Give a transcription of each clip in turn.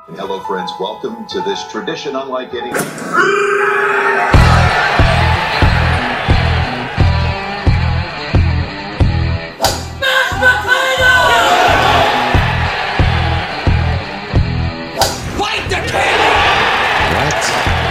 Hello, friends. Welcome to this tradition unlike any. Fight the king! What?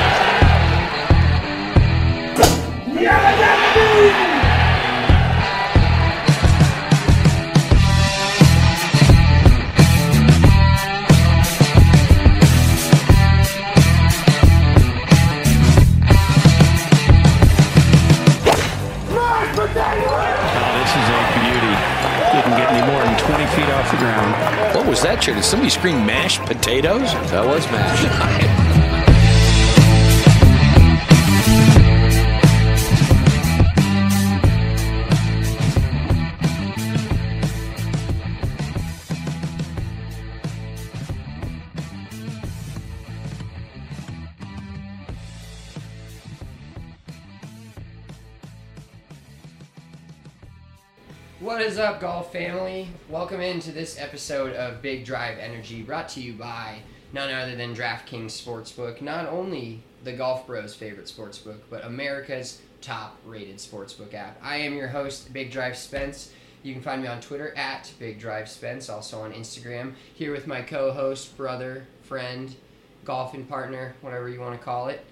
What was that, Chair? Did somebody scream mashed potatoes? That was mashed. What is up, golf family? Welcome into this episode of Big Drive Energy, brought to you by none other than DraftKings Sportsbook, not only the Golf Bros' favorite sportsbook, but America's top-rated sportsbook app. I am your host, Big Drive Spence. You can find me on Twitter at Big Drive Spence, also on Instagram. Here with my co-host, brother, friend, golfing partner, whatever you want to call it.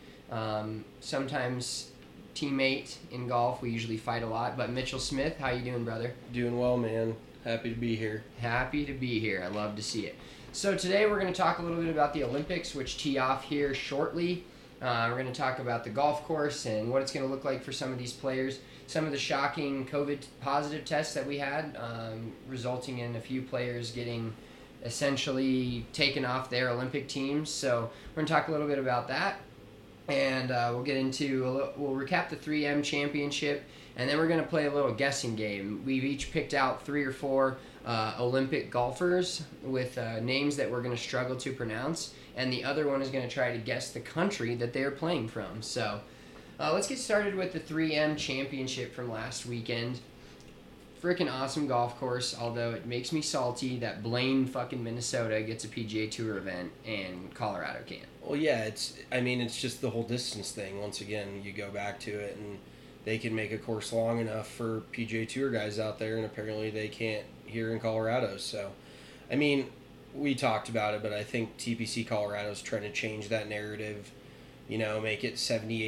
Sometimes teammate in golf. We usually fight a lot. But Mitchell Smith, how you doing, brother? Doing well, man. Happy to be here. Happy to be here. I love to see it. So today we're going to talk a little bit about the Olympics, which tee off here shortly. We're going to talk about the golf course and what it's going to look like for some of these players. Some of the shocking COVID positive tests that we had, resulting in a few players getting essentially taken off their Olympic teams. So we're going to talk a little bit about that. And we'll recap the 3M championship, and then we're going to play a little guessing game. We've each picked out 3 or 4 Olympic golfers with names that we're going to struggle to pronounce, and the other one is going to try to guess the country that they're playing from. So let's get started with the 3M championship from last weekend. Freaking awesome golf course, although it makes me salty that Blaine fucking Minnesota gets a PGA Tour event and Colorado can't. Well, yeah, it's just the whole distance thing. Once again, you go back to it, and they can make a course long enough for PGA Tour guys out there, and apparently they can't here in Colorado. So, I mean, we talked about it, but I think TPC Colorado's trying to change that narrative, make it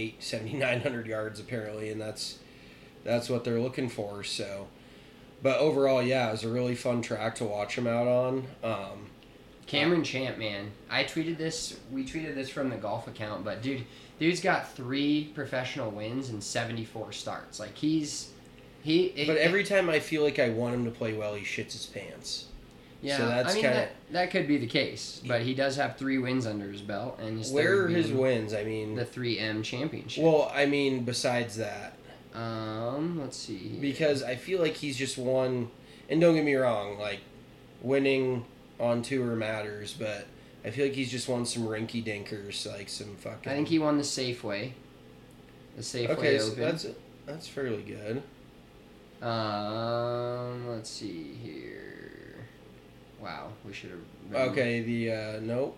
7,900 yards apparently, and that's what they're looking for, so... But overall, yeah, it was a really fun track to watch him out on. Cameron Champ, man. We tweeted this from the golf account, but dude's got 3 professional wins and 74 starts. Like, But every time I feel like I want him to play well, he shits his pants. Yeah, so that's that could be the case, but he does have 3 wins under his belt, and where are his wins? I mean, the 3M championship. Well, I mean, besides that. Let's see here. Because I feel like he's just won, and don't get me wrong, like, winning on tour matters, but I feel like he's just won some rinky dinkers, like some fucking... I think he won the Safeway. The okay, Open. So that's fairly good. Let's see here. Wow, we should have... Okay, nope.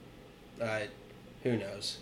Who knows?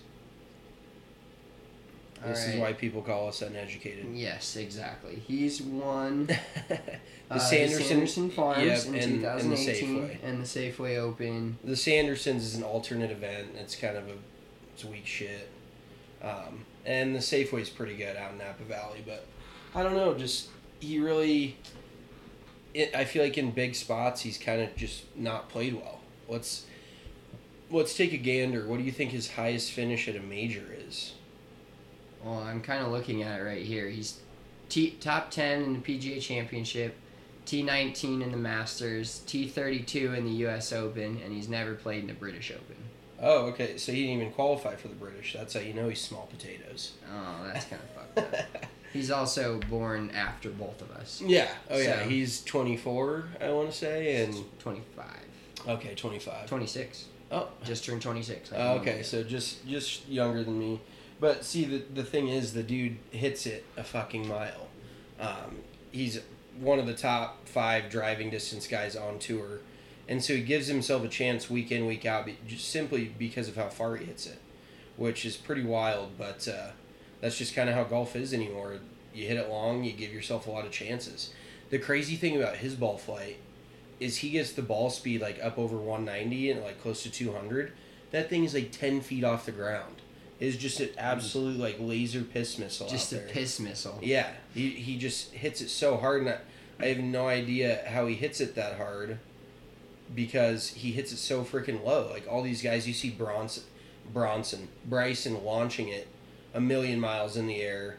This is why people call us uneducated. Yes, exactly. He's won the Sanderson Farms in 2018 and the Safeway Open. The Sandersons is an alternate event. It's kind of it's weak shit. And the Safeway's pretty good out in Napa Valley, but I don't know. Just he really. I feel like in big spots he's kind of just not played well. Let's take a gander. What do you think his highest finish at a major is? Well, I'm kind of looking at it right here. He's top 10 in the PGA Championship, T19 in the Masters, T32 in the U.S. Open, and he's never played in the British Open. Oh, okay. So he didn't even qualify for the British. That's how you know he's small potatoes. Oh, that's kind of fucked up. He's also born after both of us. Yeah. Oh, yeah. So, he's 24, I want to say, and 25. Okay, 25. 26. Oh, just turned 26. Okay, so just younger than me. But see, the thing is, the dude hits it a fucking mile. He's one of the top 5 driving distance guys on tour, And so he gives himself a chance week in, week out, just simply because of how far he hits it, which is pretty wild. But that's just kind of how golf is anymore. You hit it long, you give yourself a lot of chances. The crazy thing about his ball flight is he gets the ball speed like up over 190 and like close to 200. That thing is like 10 feet off the ground. It's just an absolute like laser piss missile. Just out a there. piss missile. Yeah, he just hits it so hard, and I have no idea how he hits it that hard, because he hits it so freaking low. Like all these guys, you see Bryson launching it a million miles in the air,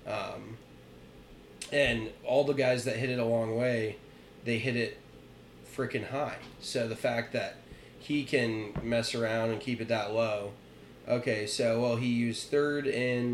and all the guys that hit it a long way, they hit it freaking high. So the fact that he can mess around and keep it that low. Okay, so he used third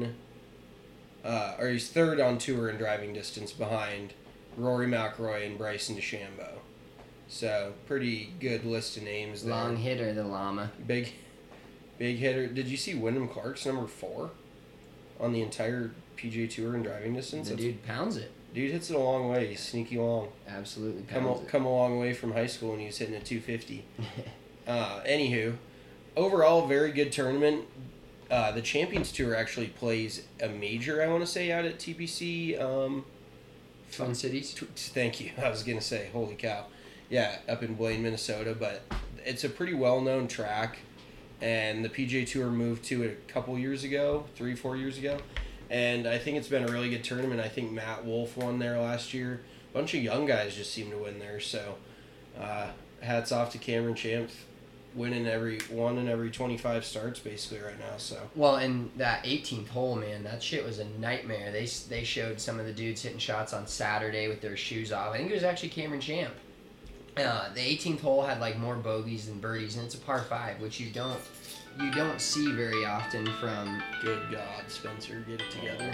he's third on tour in driving distance behind Rory McIlroy and Bryson DeChambeau. So pretty good list of names there. Long hitter, the llama. Big hitter. Did you see Wyndham Clark's number 4 on the entire PGA Tour in driving distance? The dude pounds it. Dude hits it a long way. He's sneaky long. Absolutely pounds it. Come a long way from high school when he was hitting a 250. Anywho, overall, very good tournament. The Champions Tour actually plays a major, I want to say, out at TPC. Twin Cities? Thank you. I was going to say, holy cow. Yeah, up in Blaine, Minnesota. But it's a pretty well-known track. And the PGA Tour moved to it a couple years ago, 3-4 years ago. And I think it's been a really good tournament. I think Matt Wolff won there last year. A bunch of young guys just seem to win there. So hats off to Cameron Champ, winning every 25 starts basically right now. So well, and that 18th hole, man, that shit was a nightmare. They showed some of the dudes hitting shots on Saturday with their shoes off. I think it was actually Cameron Champ. The 18th hole had like more bogeys than birdies, and it's a par 5, which you don't see very often from. Good God, Spencer, get it together.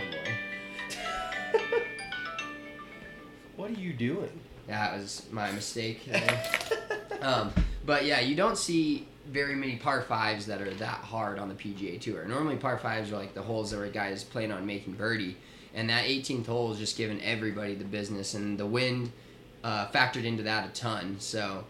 Oh, boy. What are you doing? That was my mistake. But yeah, you don't see very many par 5s that are that hard on the PGA Tour. Normally par 5s are like the holes that were guys playing on making birdie, and that 18th hole is just giving everybody the business, and the wind factored into that a ton. So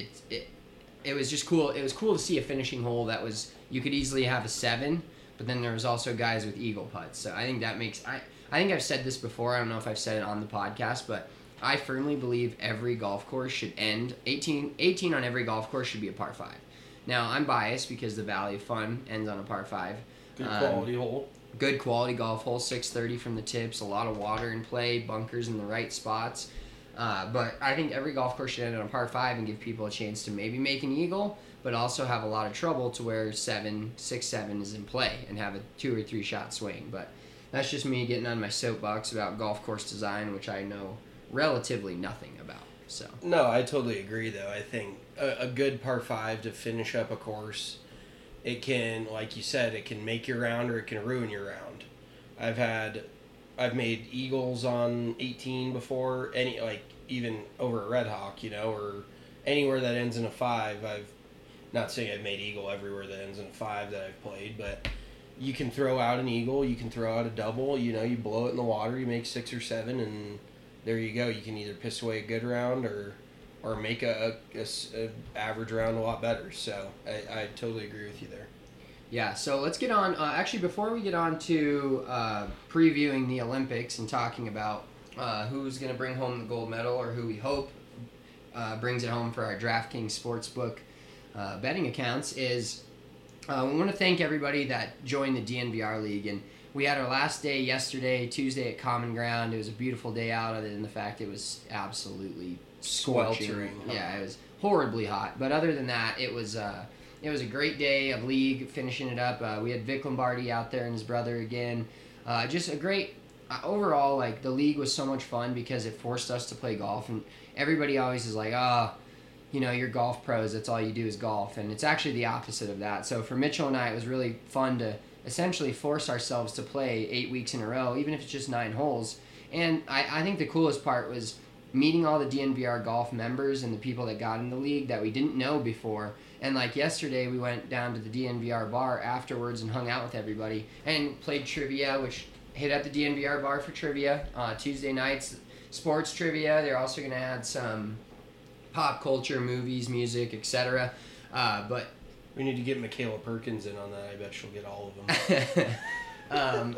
it was just cool. It was cool to see a finishing hole that was, you could easily have a 7, but then there was also guys with eagle putts. So I think that makes, I think I've said this before. I don't know if I've said it on the podcast, but I firmly believe every golf course should end, 18 on every golf course should be a par 5. Now, I'm biased because the Valley of Fun ends on a par 5. Good quality hole. Good quality golf hole, 630 from the tips, a lot of water in play, bunkers in the right spots. But I think every golf course should end on a par 5 and give people a chance to maybe make an eagle, but also have a lot of trouble to where 6-7 is in play and have a 2 or 3 shot swing. But that's just me getting on my soapbox about golf course design, which I know relatively nothing about. So no, I totally agree though. I think a good par 5 to finish up a course, it can, like you said, it can make your round or it can ruin your round. I've made eagles on 18 before, even over a Red Hawk, or anywhere that ends in a 5. I've not saying I've made eagle everywhere that ends in a 5 that I've played, but you can throw out an eagle, you can throw out a double, you blow it in the water, you make 6 or 7, and there you go. You can either piss away a good round or make a average round a lot better. So I totally agree with you there. Yeah, so let's get on. Actually, before we get on to previewing the Olympics and talking about who's going to bring home the gold medal or who we hope brings it home for our DraftKings Sportsbook betting accounts, is we want to thank everybody that joined the DNVR League. And we had our last day yesterday, Tuesday at Common Ground. It was a beautiful day out, other than the fact it was absolutely scorching. Sweltering. Yeah, it was horribly hot. But other than that, it was a great day of league, finishing it up. We had Vic Lombardi out there and his brother again. Just a great, overall, the league was so much fun because it forced us to play golf. And everybody always is like, you're golf pros, that's all you do is golf. And it's actually the opposite of that. So for Mitchell and I, it was really fun to essentially force ourselves to play 8 weeks in a row, even if it's just 9 holes. And I think the coolest part was meeting all the DNVR golf members and the people that got in the league that we didn't know before. And yesterday, we went down to the DNVR bar afterwards and hung out with everybody and played trivia, which hit at the DNVR bar for trivia. Tuesday nights, sports trivia. They're also going to add some pop culture, movies, music, etc. But We need to get Michaela Perkins in on that. I bet she'll get all of them.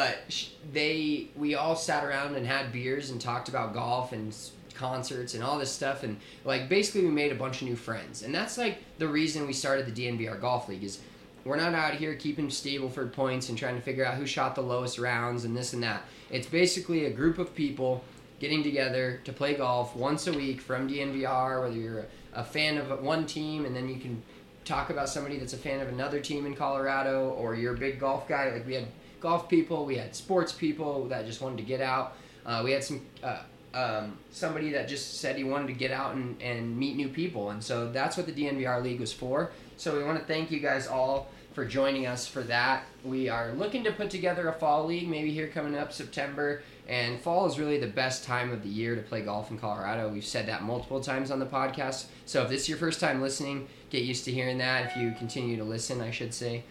We all sat around and had beers and talked about golf and concerts and all this stuff, and like basically we made a bunch of new friends, and that's like the reason we started the DNVR Golf League. Is we're not out here keeping Stableford points and trying to figure out who shot the lowest rounds and this and that. It's basically a group of people getting together to play golf once a week from DNVR, whether you're a fan of one team and then you can talk about somebody that's a fan of another team in Colorado, or you're a big golf guy. Like we had golf people, we had sports people that just wanted to get out. We had somebody that just said he wanted to get out and meet new people, and so that's what the DNVR League was for. So we want to thank you guys all for joining us for that. We are looking to put together a fall league, maybe here coming up September, and fall is really the best time of the year to play golf in Colorado. We've said that multiple times on the podcast, so if this is your first time listening, get used to hearing that if you continue to listen, I should say.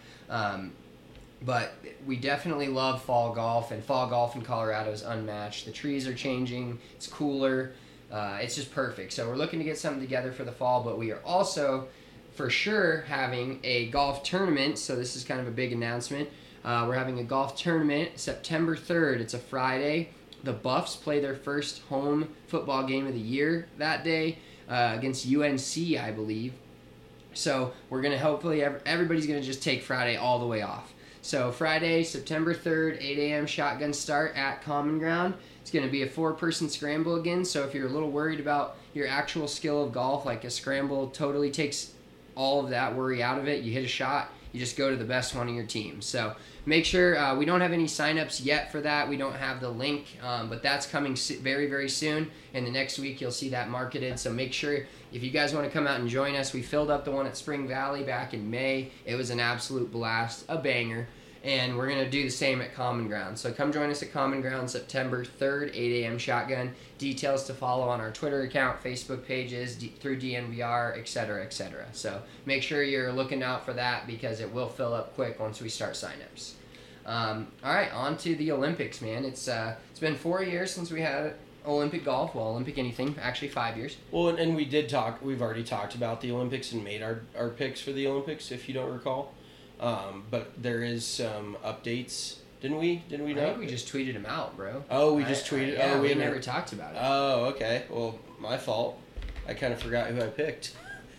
But we definitely love fall golf, and fall golf in Colorado is unmatched. The trees are changing, it's cooler, it's just perfect. So we're looking to get something together for the fall, but we are also for sure having a golf tournament, so this is kind of a big announcement. We're having a golf tournament September 3rd. It's a Friday. The Buffs play their first home football game of the year that day against UNC, I believe. So we're going to hopefully, everybody's going to just take Friday all the way off. So Friday, September 3rd, 8 a.m. shotgun start at Common Ground. It's going to be a 4-person scramble again, so if you're a little worried about your actual skill of golf, like a scramble totally takes all of that worry out of it. You hit a shot, you just go to the best one of your team. So make sure, we don't have any signups yet for that. We don't have the link, but that's coming very, very soon. And the next week you'll see that marketed. So make sure if you guys want to come out and join us. We filled up the one at Spring Valley back in May. It was an absolute blast, a banger. And we're going to do the same at Common Ground. So come join us at Common Ground September 3rd, 8 a.m. shotgun. Details to follow on our Twitter account, Facebook pages, through DNVR, etc., etc. So make sure you're looking out for that because it will fill up quick once we start signups. All right, on to the Olympics, man. It's been 4 years since we had Olympic golf. Well, Olympic anything, actually 5 years. Well, and we've already talked about the Olympics and made our picks for the Olympics, if you don't recall. But there is some updates. Didn't we I think we just tweeted them out, bro. Oh, we just tweeted? Yeah, oh, we never talked about it. Oh, okay. Well, my fault. I kind of forgot who I picked.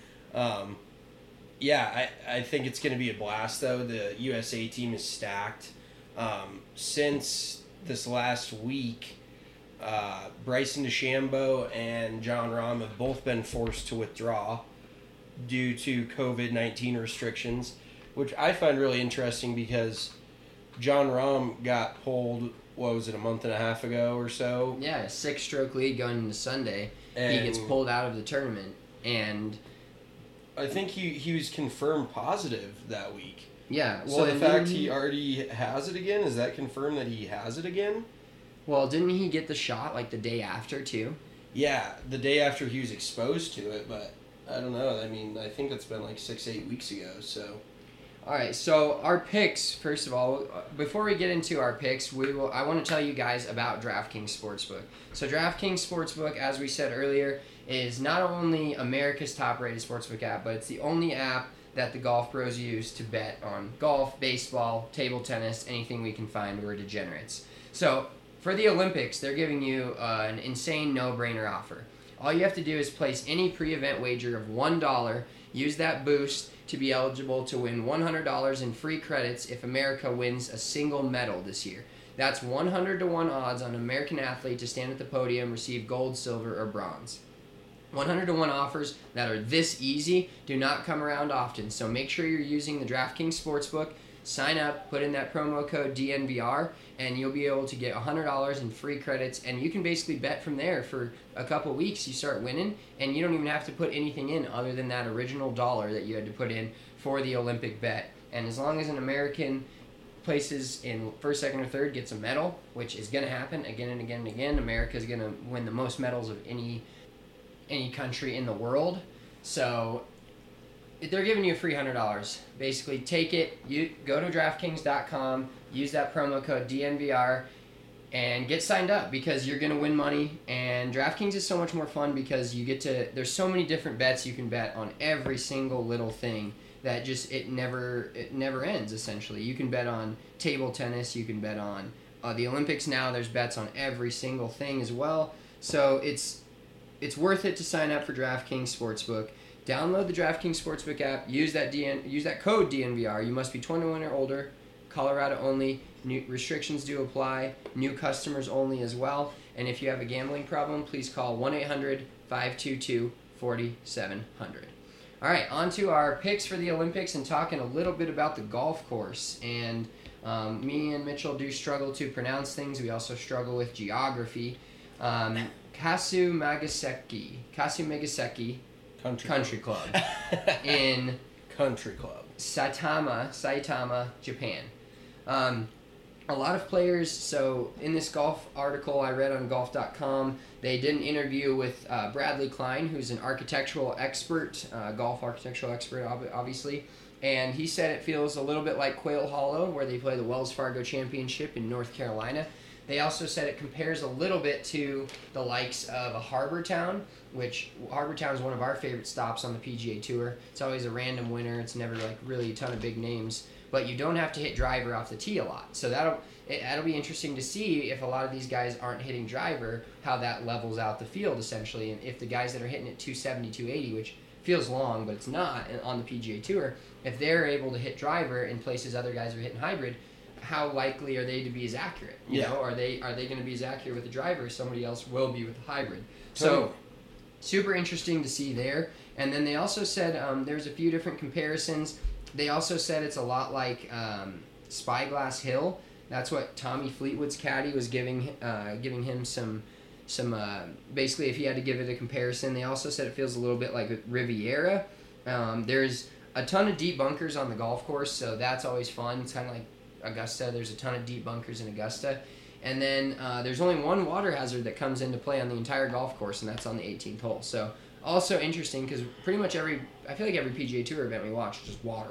Yeah, I think it's going to be a blast, though. The USA team is stacked. Since this last week, Bryson DeChambeau and John Rahm have both been forced to withdraw due to COVID-19 restrictions, which I find really interesting because John Rahm got pulled, what was it, a month and a half ago or so? Yeah, a 6-stroke lead going into Sunday. And he gets pulled out of the tournament, and I think he was confirmed positive that week. Yeah. Well, So the fact he already has it again, is that confirmed that he has it again? Well, didn't he get the shot like the day after too? Yeah, the day after he was exposed to it, but I don't know. I mean, I think it's been like 6-8 weeks ago, so... All right, so our picks, first of all, before we get into our picks, I want to tell you guys about DraftKings Sportsbook. So DraftKings Sportsbook, as we said earlier, is not only America's top-rated sportsbook app, but it's the only app that the golf pros use to bet on golf, baseball, table tennis, anything we can find. We're degenerates. So for the Olympics, they're giving you an insane no-brainer offer. All you have to do is place any pre-event wager of $1, use that boost to be eligible to win $100 in free credits if America wins a single medal this year. That's 100-1 odds on an American athlete to stand at the podium, receive gold, silver, or bronze. 100-1 offers that are this easy do not come around often, so make sure you're using the DraftKings Sportsbook. Sign up, put in that promo code DNVR, and you'll be able to get $100 in free credits, and you can basically bet from there for a couple weeks. You start winning, and you don't even have to put anything in other than that original dollar that you had to put in for the Olympic bet. And as long as an American places in first, second, or third gets a medal, which is going to happen again and again and again, America is going to win the most medals of any country in the world. So they're giving you a free $100. Basically, take it. You go to DraftKings.com, use that promo code DNVR, and get signed up because you're going to win money. And DraftKings is so much more fun because there's so many different bets you can bet on every single little thing that just it never ends. Essentially, you can bet on table tennis, you can bet on the Olympics. Now there's bets on every single thing as well. So it's worth it to sign up for DraftKings Sportsbook. Download the DraftKings Sportsbook app. Use that code DNVR. You must be 21 or older. Colorado only. New restrictions do apply. New customers only as well. And if you have a gambling problem, please call 1-800-522-4700. All right, on to our picks for the Olympics and talking a little bit about the golf course. And me and Mitchell do struggle to pronounce things. We also struggle with geography. Kasumigaseki Country Club in Country Club. Saitama, Japan. A lot of players, so in this golf article I read on golf.com, they did an interview with Bradley Klein, who's an architectural expert, golf architectural expert, obviously, and he said it feels a little bit like Quail Hollow, where they play the Wells Fargo Championship in North Carolina. They also said it compares a little bit to the likes of a Harbor Town, which Harbor Town is one of our favorite stops on the PGA Tour. It's always a random winner. It's never like really a ton of big names, but you don't have to hit driver off the tee a lot. So that'll be interesting to see if a lot of these guys aren't hitting driver, how that levels out the field essentially, and if the guys that are hitting it 270, 280, which feels long, but it's not on the PGA Tour, if they're able to hit driver in places other guys are hitting hybrid, how likely are they to be as accurate? You know, are they going to be as accurate with the driver as somebody else will be with the hybrid? So, super interesting to see there. And then they also said there's a few different comparisons. They also said it's a lot like Spyglass Hill. That's what Tommy Fleetwood's caddy was giving him some basically if he had to give it a comparison. They also said it feels a little bit like Riviera. There's a ton of deep bunkers on the golf course, so that's always fun. It's kind of like Augusta. There's a ton of deep bunkers in Augusta. And then there's only one water hazard that comes into play on the entire golf course, and that's on the 18th hole. So also interesting because pretty much I feel like every PGA Tour event we watch is just water,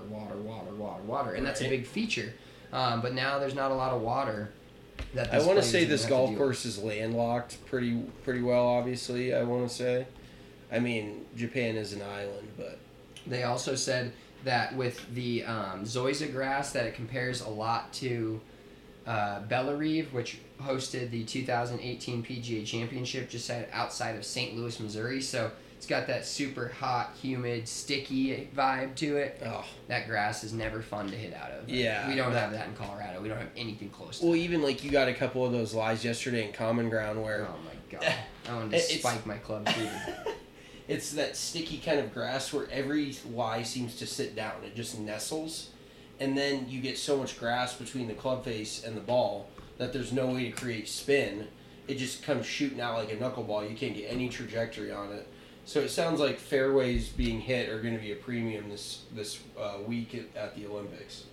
and that's a big feature. But now there's not a lot of water. I want to say this golf course is landlocked pretty well, obviously, I want to say. I mean, Japan is an island, but... They also said that with the Zoysia grass that it compares a lot to Bellerive, which hosted the 2018 PGA Championship just outside of St. Louis, Missouri. So it's got that super hot, humid, sticky vibe to it. Oh. That grass is never fun to hit out of. Yeah. We don't have that in Colorado. We don't have anything close to Well, even like you got a couple of those lies yesterday in Common Ground where... Oh my God. I wanted to spike my club through It's that sticky kind of grass where every lie seems to sit down. It just nestles. And then you get so much grass between the club face and the ball that there's no way to create spin. It just comes shooting out like a knuckleball. You can't get any trajectory on it. So it sounds like fairways being hit are going to be a premium this week at the Olympics.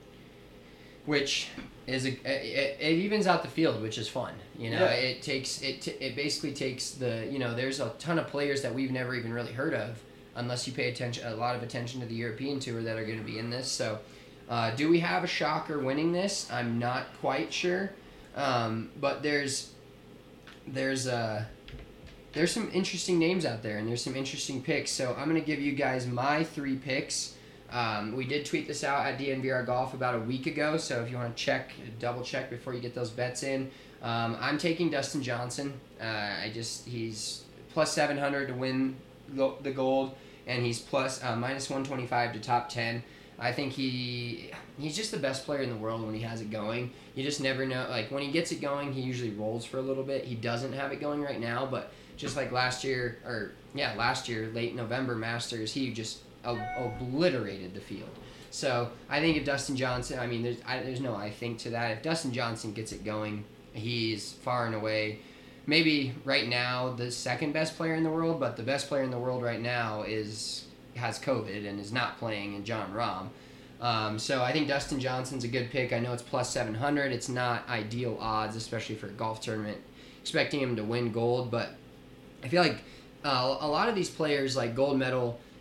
Which is it evens out the field, which is fun. You know, it basically takes the, you know, there's a ton of players that we've never even really heard of unless you pay a lot of attention to the European Tour that are going to be in this. So, do we have a shocker winning this? I'm not quite sure, but there's some interesting names out there and there's some interesting picks. So I'm going to give you guys my 3 picks. We did tweet this out at DNVR Golf about a week ago, so if you want to double check before you get those bets in. I'm taking Dustin Johnson. He's plus 700 to win the gold, and he's plus minus 125 to top 10. I think he's just the best player in the world when he has it going. You just never know. Like when he gets it going, he usually rolls for a little bit. He doesn't have it going right now, but just like last year, late November Masters, he just obliterated the field. So I think if Dustin Johnson, I mean, there's no I think to that. If Dustin Johnson gets it going, he's far and away, maybe right now the second best player in the world, but the best player in the world right now has COVID and is not playing, in Jon Rahm. So I think Dustin Johnson's a good pick. I know it's plus 700. It's not ideal odds, especially for a golf tournament, expecting him to win gold, but I feel like a lot of these players, like gold medal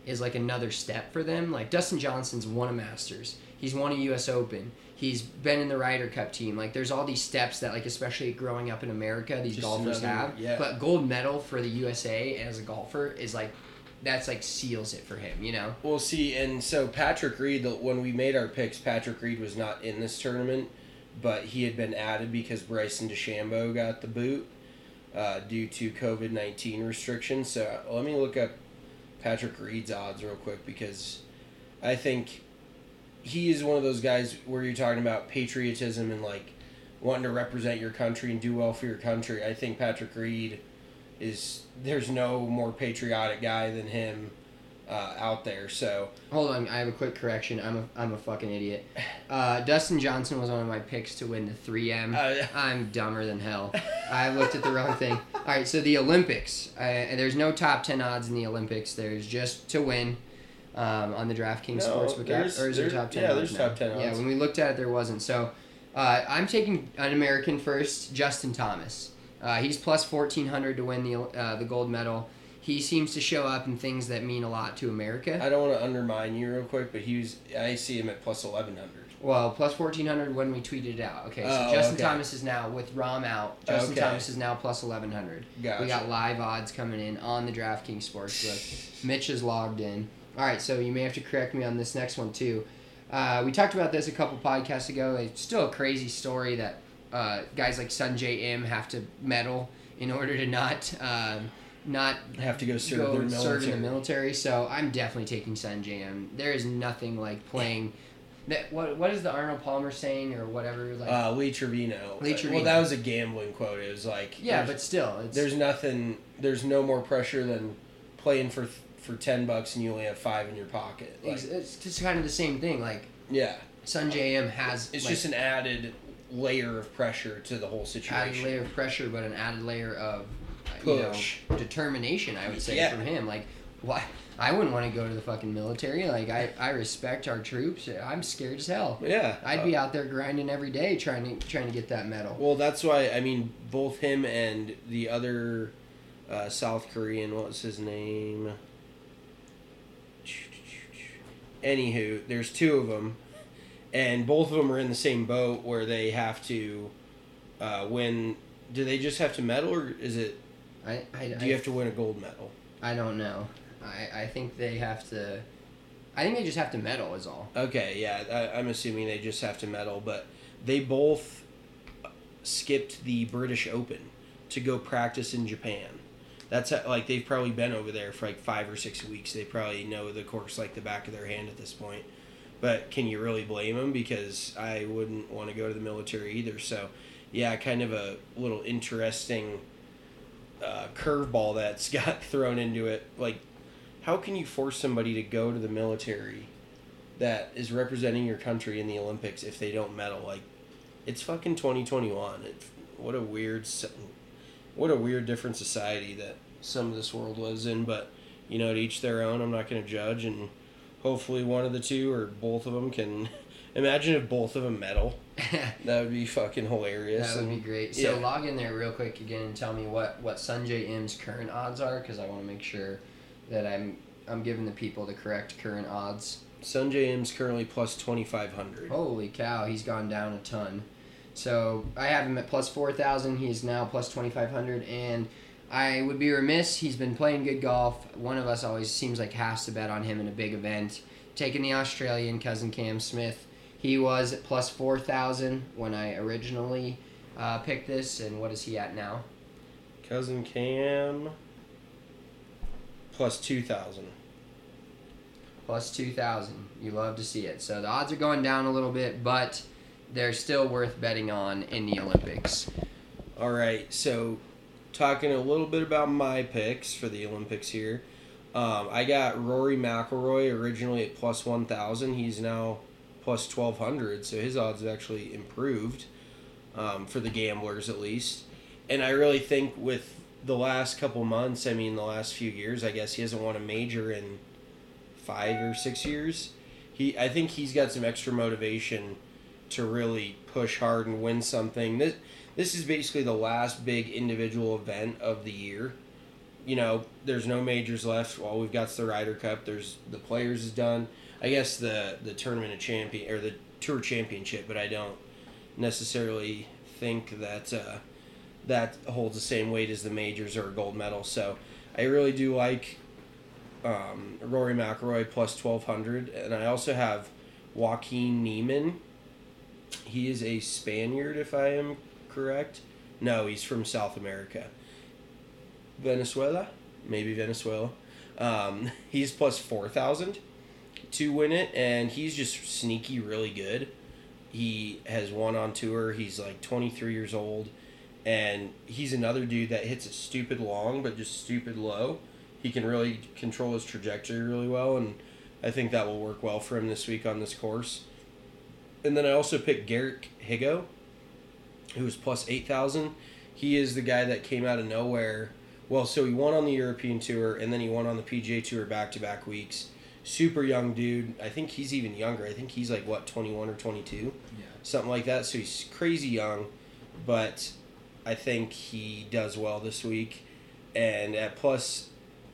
is like another step for them. Like Dustin Johnson's won a Masters. He's won a U.S. Open. He's been in the Ryder Cup team. Like there's all these steps that like especially growing up in America, these Just golfers another- have. yeah. But gold medal for the USA as a golfer is like that's like seals it for him, you know? We'll see. And so Patrick Reed, when we made our picks, Patrick Reed was not in this tournament, but he had been added because Bryson DeChambeau got the boot due to COVID-19 restrictions. So let me look up Patrick Reed's odds real quick because I think he is one of those guys where you're talking about patriotism and like wanting to represent your country and do well for your country. I think Patrick Reed there's no more patriotic guy than him out there. So Hold on, I have a quick correction. I'm a fucking idiot. Dustin Johnson was one of my picks to win the 3M. I'm dumber than hell. I looked at the wrong thing. All right, so the Olympics. There's no top 10 odds in the Olympics. There's just to win on the DraftKings No, Sportsbook app. Or is there top 10 yeah, odds there's now? top 10 Yeah, odds. when we looked at it, there wasn't. So I'm taking an American first, Justin Thomas. He's plus 1,400 to win the gold medal. He seems to show up in things that mean a lot to America. I don't want to undermine you real quick, but I see him at plus 1,100. Well, plus 1,400 when we tweeted it out. Okay, so Oh, Justin okay. Thomas is now, with Rahm out, Justin Okay. Thomas is now plus 1,100. Gotcha. We got live odds coming in on the DraftKings Sportsbook. Mitch is logged in. All right, so you may have to correct me on this next one, too. We talked about this a couple podcasts ago. It's still a crazy story that guys like Sungjae Im have to medal in order to not Have to go serve serve in the military. So I'm definitely taking Sungjae Im. There is nothing like playing. That what is the Arnold Palmer saying or whatever? Like Lee Trevino. Lee Trevino. Well, that was a gambling quote. It was like yeah, but still, it's, there's nothing. There's no more pressure than playing for $10 and you only have $5 in your pocket. Like, it's just kind of the same thing. Like yeah, Sungjae Im has it's like, just an added layer of pressure to the whole added situation. layer of pressure, but an added layer of Push. Determination. I would say Yeah. from him. Like why? I wouldn't want to go to the fucking military. Like I respect our troops. I'm scared as hell. Yeah, I'd be out there grinding every day trying to get that medal. Well, that's why I mean both him and the other South Korean. What was his name? Anywho, there's two of them, and both of them are in the same boat where they have to win. Do they just have to medal, or is it? Do you have to win a gold medal? I don't know. I think they have to. I think they just have to medal is all. Okay, yeah, I'm assuming they just have to medal, but they both skipped the British Open to go practice in Japan. That's like they've probably been over there for like 5 or 6 weeks. They probably know the course like the back of their hand at this point. But can you really blame them? Because I wouldn't want to go to the military either. So, yeah, kind of a little interesting curveball that's got thrown into it. Like, how can you force somebody to go to the military that is representing your country in the Olympics if they don't medal? Like, it's fucking 2021. What a weird different society that some of this world lives in. But, you know, to each their own. I'm not going to judge, and hopefully one of the two or both of them can. Imagine if both of them medal. That would be fucking hilarious. That would be great. So log in there real quick again and tell me what Sungjae Im's current odds are, because I want to make sure that I'm giving the people the correct current odds. Sungjae Im's currently plus 2,500. Holy cow, he's gone down a ton. So I have him at plus 4,000. He is now plus 2,500, and I would be remiss. He's been playing good golf. One of us always seems like has to bet on him in a big event. Taking the Australian cousin Cam Smith. He was at plus 4,000 when I originally picked this, and what is he at now? Cousin Cam plus 2,000. Plus 2,000. You love to see it. So the odds are going down a little bit, but they're still worth betting on in the Olympics. All right, so talking a little bit about my picks for the Olympics here. I got Rory McIlroy originally at plus 1,000. He's now plus 1,200, so his odds have actually improved for the gamblers at least. And I really think with the last couple months, I mean the last few years, I guess he hasn't won a major in 5 or 6 years. I think he's got some extra motivation to really push hard and win something. This is basically the last big individual event of the year there's no majors left. All we've got's the Ryder Cup. There's the Players is done. I guess the Tournament of Champion or the Tour Championship, but I don't necessarily think that that holds the same weight as the majors or a gold medal. So I really do like Rory McIlroy plus 1,200, and I also have Joaquin Niemann. He is a Spaniard, if I am correct. No, he's from South America. Venezuela? Maybe Venezuela. He's plus 4,000 to win it, and he's just sneaky really good. He has won on tour. He's like 23 years old, and he's another dude that hits it stupid long but just stupid low. He can really control his trajectory really well, and I think that will work well for him this week on this course. And then I also picked Garrick Higo, who was plus 8,000. He is the guy that came out of nowhere. Well, so he won on the European Tour, and then he won on the PGA Tour back-to-back weeks. Super young dude. I think he's even younger. I think he's like, 21 or 22? Yeah. Something like that. So he's crazy young, but I think he does well this week. And at plus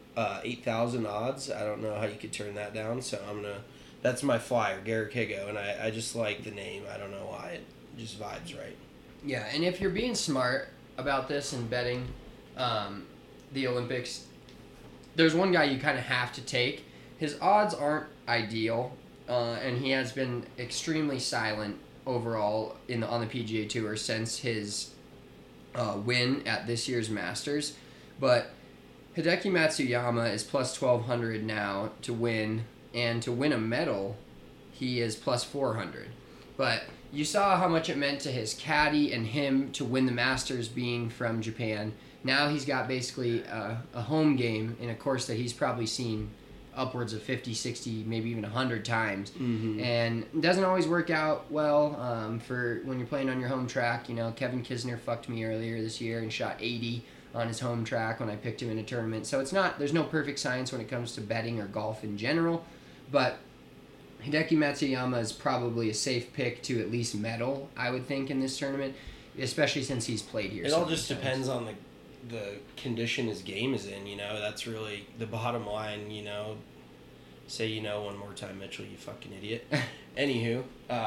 8,000 odds, I don't know how you could turn that down, so that's my flyer, Garrick Higo, and I just like the name. I don't know why. It just vibes right. Yeah, and if you're being smart about this and betting the Olympics, there's one guy you kind of have to take. His odds aren't ideal, and he has been extremely silent overall on the PGA Tour since his win at this year's Masters. But Hideki Matsuyama is plus 1,200 now to win, and to win a medal, he is plus 400. But you saw how much it meant to his caddy and him to win the Masters being from Japan. Now he's got basically a home game in a course that he's probably seen upwards of 50, 60, maybe even 100 times. Mm-hmm. And it doesn't always work out well for when you're playing on your home track. Kevin Kisner fucked me earlier this year and shot 80 on his home track when I picked him in a tournament. So there's no perfect science when it comes to betting or golf in general. But Hideki Matsuyama is probably a safe pick to at least medal, I would think, in this tournament, especially since he's played here. It all just depends on the condition his game is in, That's really the bottom line, Say one more time, Mitchell, you fucking idiot. Anywho,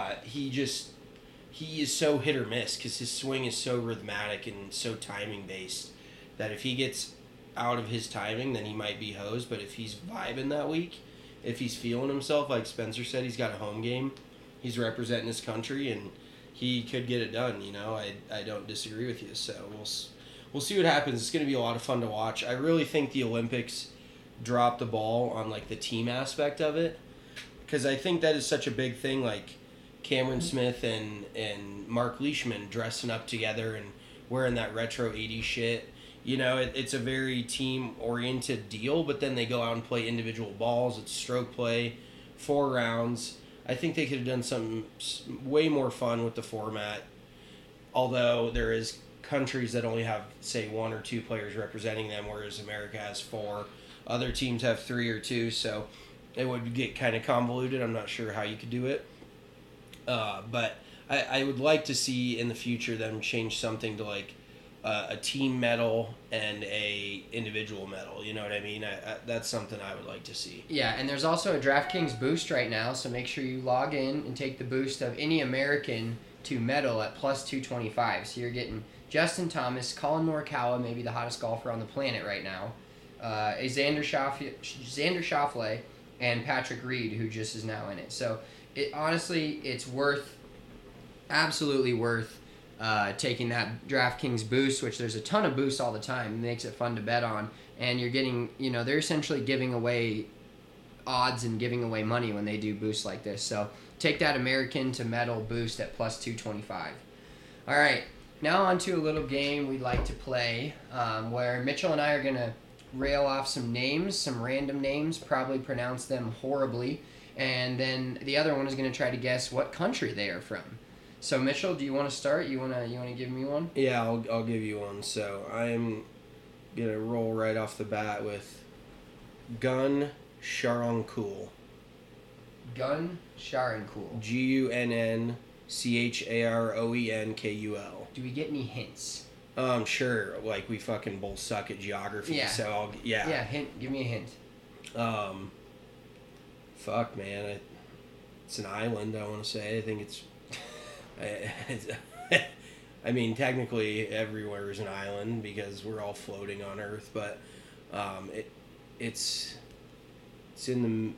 he is so hit or miss because his swing is so rhythmic and so timing based that if he gets out of his timing, then he might be hosed. But if he's vibing that week, if he's feeling himself, like Spencer said, he's got a home game, he's representing his country, and he could get it done. I don't disagree with you. So we'll see what happens. It's going to be a lot of fun to watch. I really think the Olympics dropped the ball on the team aspect of it, because I think that is such a big thing. Like Cameron Smith and Mark Leishman dressing up together and wearing that retro 80s shit. It's a very team-oriented deal, but then they go out and play individual balls. It's stroke play, 4 rounds. I think they could have done something way more fun with the format, although there is countries that only have, say, 1 or 2 players representing them, whereas America has 4. Other teams have 3 or 2, so it would get kind of convoluted. I'm not sure how you could do it. But I would like to see in the future them change something to a team medal and a individual medal. You know what I mean? That's something I would like to see. Yeah, and there's also a DraftKings boost right now, so make sure you log in and take the boost of any American to medal at plus 225. So you're getting Justin Thomas, Colin Morikawa, maybe the hottest golfer on the planet right now, Xander Schauffele, and Patrick Reed, who just is now in it. So it's absolutely worth taking that DraftKings boost, which there's a ton of boosts all the time. It makes it fun to bet on. And you're getting, they're essentially giving away odds and giving away money when they do boosts like this. So take that American to medal boost at plus 225. All right, now on to a little game we'd like to play where Mitchell and I are going to rail off some names, some random names, probably pronounce them horribly. And then the other one is going to try to guess what country they are from. So Mitchell, do you want to start? You want to give me one? Yeah, I'll give you one. So I'm gonna roll right off the bat with Gun Sharankul. Gun Sharankul. Gunncharoenkul. Do we get any hints? Sure. Like we fucking both suck at geography. Yeah. So Yeah, hint. Give me a hint. Fuck, man. It's an island. I want to say. I think it's. I mean, technically, everywhere is an island because we're all floating on Earth. But, it's in the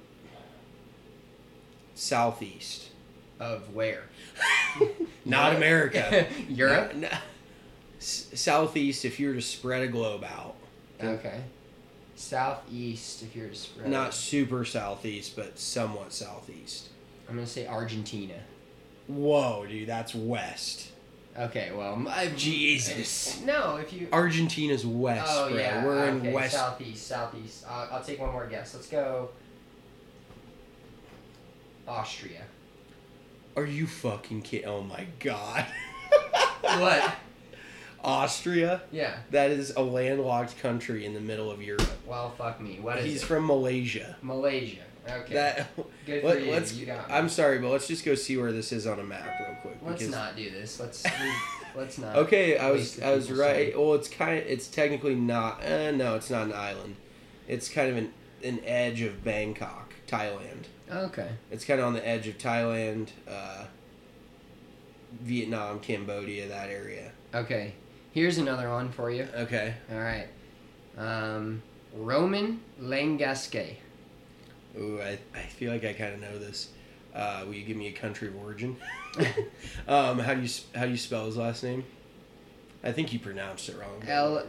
southeast. Of where? Not America. Europe? No. Southeast, if you were to spread a globe out. Okay. Southeast, if you're to spread. Not super southeast, but somewhat southeast. I'm going to say Argentina. Whoa, dude, that's west. Okay, well, Jesus. No, if you. Argentina's west, Oh, bro. yeah. We're okay, in west. Southeast. I'll take one more guess. Let's go. Austria. Are you fucking kidding? Oh my god. What? Austria? Yeah. That is a landlocked country in the middle of Europe. Well, fuck me. What is He's it? from Malaysia. Malaysia. Okay. That. Good for you. Let's. You got me. I'm sorry, but let's just go see where this is on a map real quick. Let's because- not do this. Let's not. Okay, I waste was the people's right. time. Well, it's technically not. No, it's not an island. It's kind of an edge of Bangkok, Thailand. Okay. It's kind of on the edge of Thailand, Vietnam, Cambodia, that area. Okay. Here's another one for you. Okay. All right. Roman Langasque. Ooh, I feel like I kind of know this. Will you give me a country of origin? How do you spell his last name? I think you pronounced it wrong.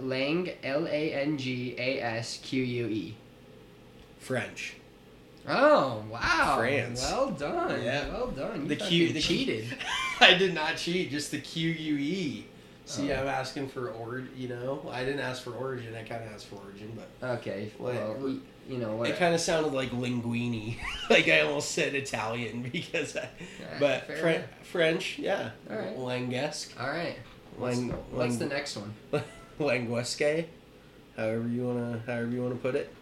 Langasque. French. Oh wow! France. Well done. Yeah. Well done. The You Q. fucking cheated. I did not cheat. Just the QUE. See, Oh. I'm asking for I didn't ask for origin. I kind of asked for origin, but Okay. Well, you know what? it kind of sounded like linguini. Like I almost said Italian because but fair enough. French, yeah. All right. Languesque. All right. What's the next one? Languesque. However you wanna put it.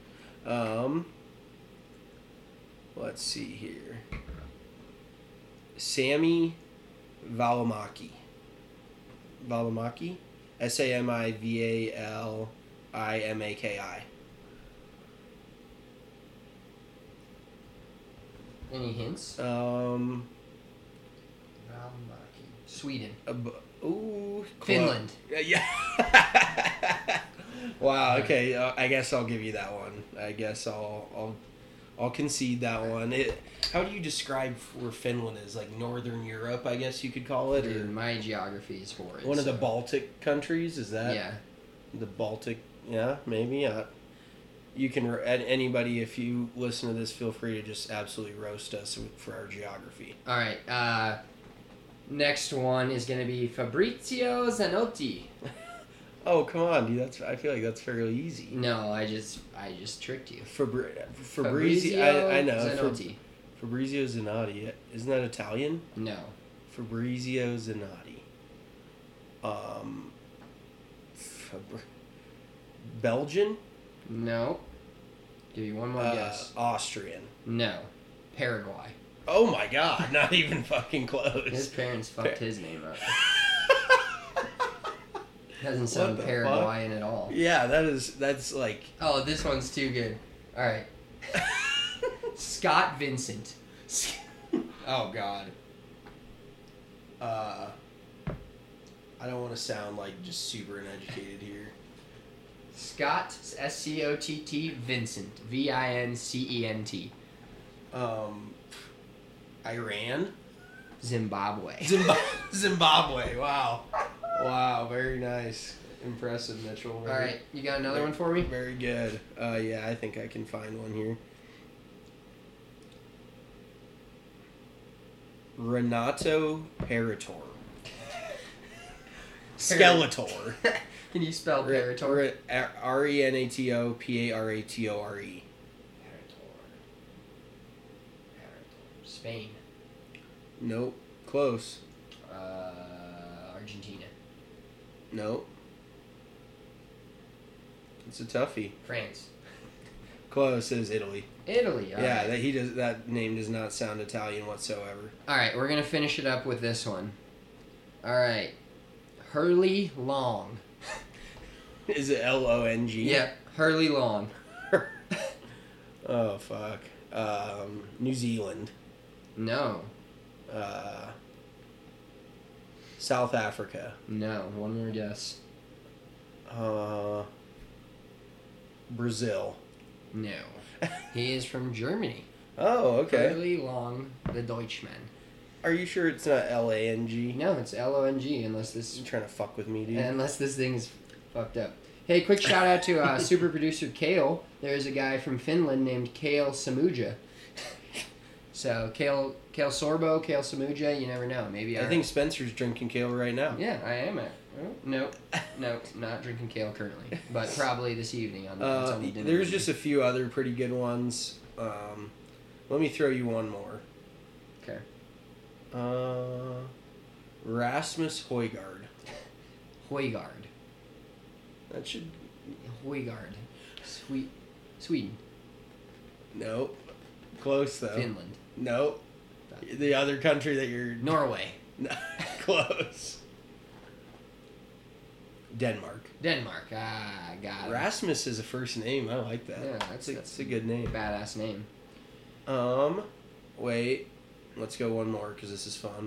Let's see here. Sammy Valimaki. Valimaki? SAMIVALIMAKI. Any hints? Um. Sweden. Ooh. Finland. Yeah. Wow. Okay. I guess I'll give you that one. I guess I'll concede that one. How do you describe where Finland is? Like Northern Europe, I guess you could call it, or Dude, my geography is horrid. one of the so- Baltic countries. Is that? Yeah. The Baltic. Yeah, maybe. You can anybody, if you listen to this, feel free to just absolutely roast us for our geography. All right. Next one is gonna be Fabrizio Zanotti. Oh come on, dude! I feel like that's fairly easy. No, I just tricked you. Fabrizio. I know. Zanotti. Fabrizio Zanotti. Isn't that Italian? No. Fabrizio Zanotti. Belgian? No. Give you one more guess. Austrian. No. Paraguay. Oh my god, not even fucking His close. parents fucked his name up. Doesn't sound the Paraguayan at all. Yeah, that's like Oh, this one's too good. All right. Scott Vincent. oh god. I don't want to sound like just super uneducated here. Scott Scott Vincent Vincent. Iran? Zimbabwe. Zimbabwe. Wow. Wow, very nice. Impressive, Mitchell. All right, you got another one for me? Very good. Yeah, I think I can find one here. Renato Parator. Skeletor. Can you spell Parator? Renato Paratore. Spain. Nope. Close. Argentina. Nope. It's a toughie. France. Close. It is Italy. Italy. all Yeah, right. that name does not sound Italian whatsoever. All right, we're gonna finish it up with this one. All right, Hurley Long. Is it Long? Yep, Hurley Long. Oh fuck. New Zealand. No. South Africa. No. One more guess. Brazil. No. He is from Germany. Oh, okay. Hurley Long, the Deutschman. Are you sure it's not Lang? No, it's Long unless this You trying to fuck with me, dude? unless this thing's fucked up. Hey, quick shout out to super producer Kale. There's a guy from Finland named Kale Samuja. So Kale Sorbo, Kale Samuja, you never know. Maybe I think Spencer's drinking kale right now. Yeah, I am. No, not drinking kale currently, but probably this evening on the dinner. There's just a few other pretty good ones. Let me throw you one more. Okay. Rasmus Højgaard. Højgaard. That should... Højgaard. Sweden. Nope. Close, though. Finland. Nope. The other country that you're... Norway. Close. Denmark. Denmark. Ah, got it. Rasmus is a first name. I like that. Yeah, that's a good name. Badass name. Wait. Let's go one more because this is fun.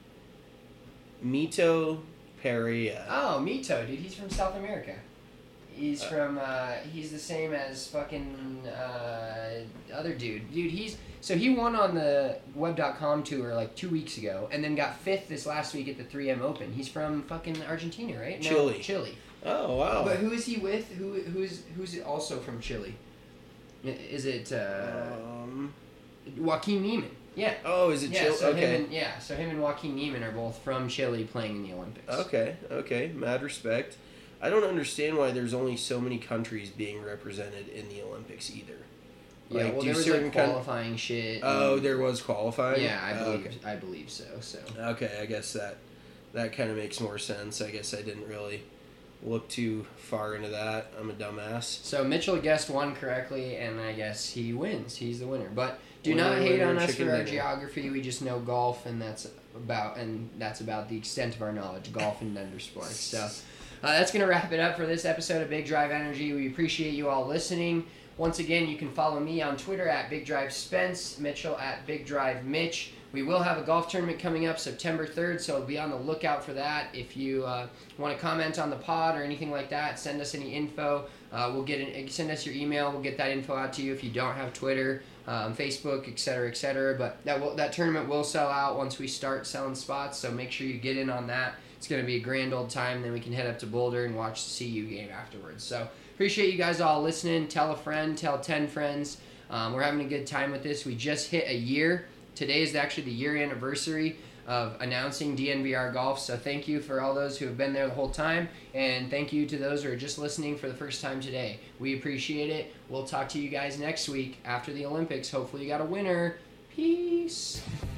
Mito Pereira. Oh, Mito, dude. He's from South America. He's from, he's the same as fucking, other dude. Dude, he won on the Web.com tour like 2 weeks ago and then got 5th this last week at the 3M Open. He's from fucking Argentina, right? No, Chile. Oh, wow. But who is he with? Who's also from Chile? Is it, Joaquin Neiman. Yeah. Oh, is it Chile? So okay. so him and Joaquin Neiman are both from Chile playing in the Olympics. Okay. Mad respect. I don't understand why there's only so many countries being represented in the Olympics either. Yeah, well, there was like qualifying shit. Oh, there was qualifying? Yeah, I believe so. Okay, I guess that kind of makes more sense. I guess I didn't really look too far into that. I'm a dumbass. So Mitchell guessed one correctly, and I guess he wins. He's the winner. But do not hate on us for our geography. We just know golf, and that's about the extent of our knowledge. Golf and under sports. So that's gonna wrap it up for this episode of Big Drive Energy. We appreciate you all listening. Once again, you can follow me on Twitter at Big Drive Spence, Mitchell at Big Drive Mitch. We will have a golf tournament coming up September 3rd, so be on the lookout for that. If you want to comment on the pod or anything like that, send us any info. Send us your email. We'll get that info out to you if you don't have Twitter, Facebook, etc., etc. But that tournament will sell out once we start selling spots, so make sure you get in on that. It's going to be a grand old time. Then we can head up to Boulder and watch the CU game afterwards. So appreciate you guys all listening. Tell a friend. Tell 10 friends. We're having a good time with this. We just hit a year. Today is actually the year anniversary of announcing DNVR Golf. So thank you for all those who have been there the whole time. And thank you to those who are just listening for the first time today. We appreciate it. We'll talk to you guys next week after the Olympics. Hopefully you got a winner. Peace.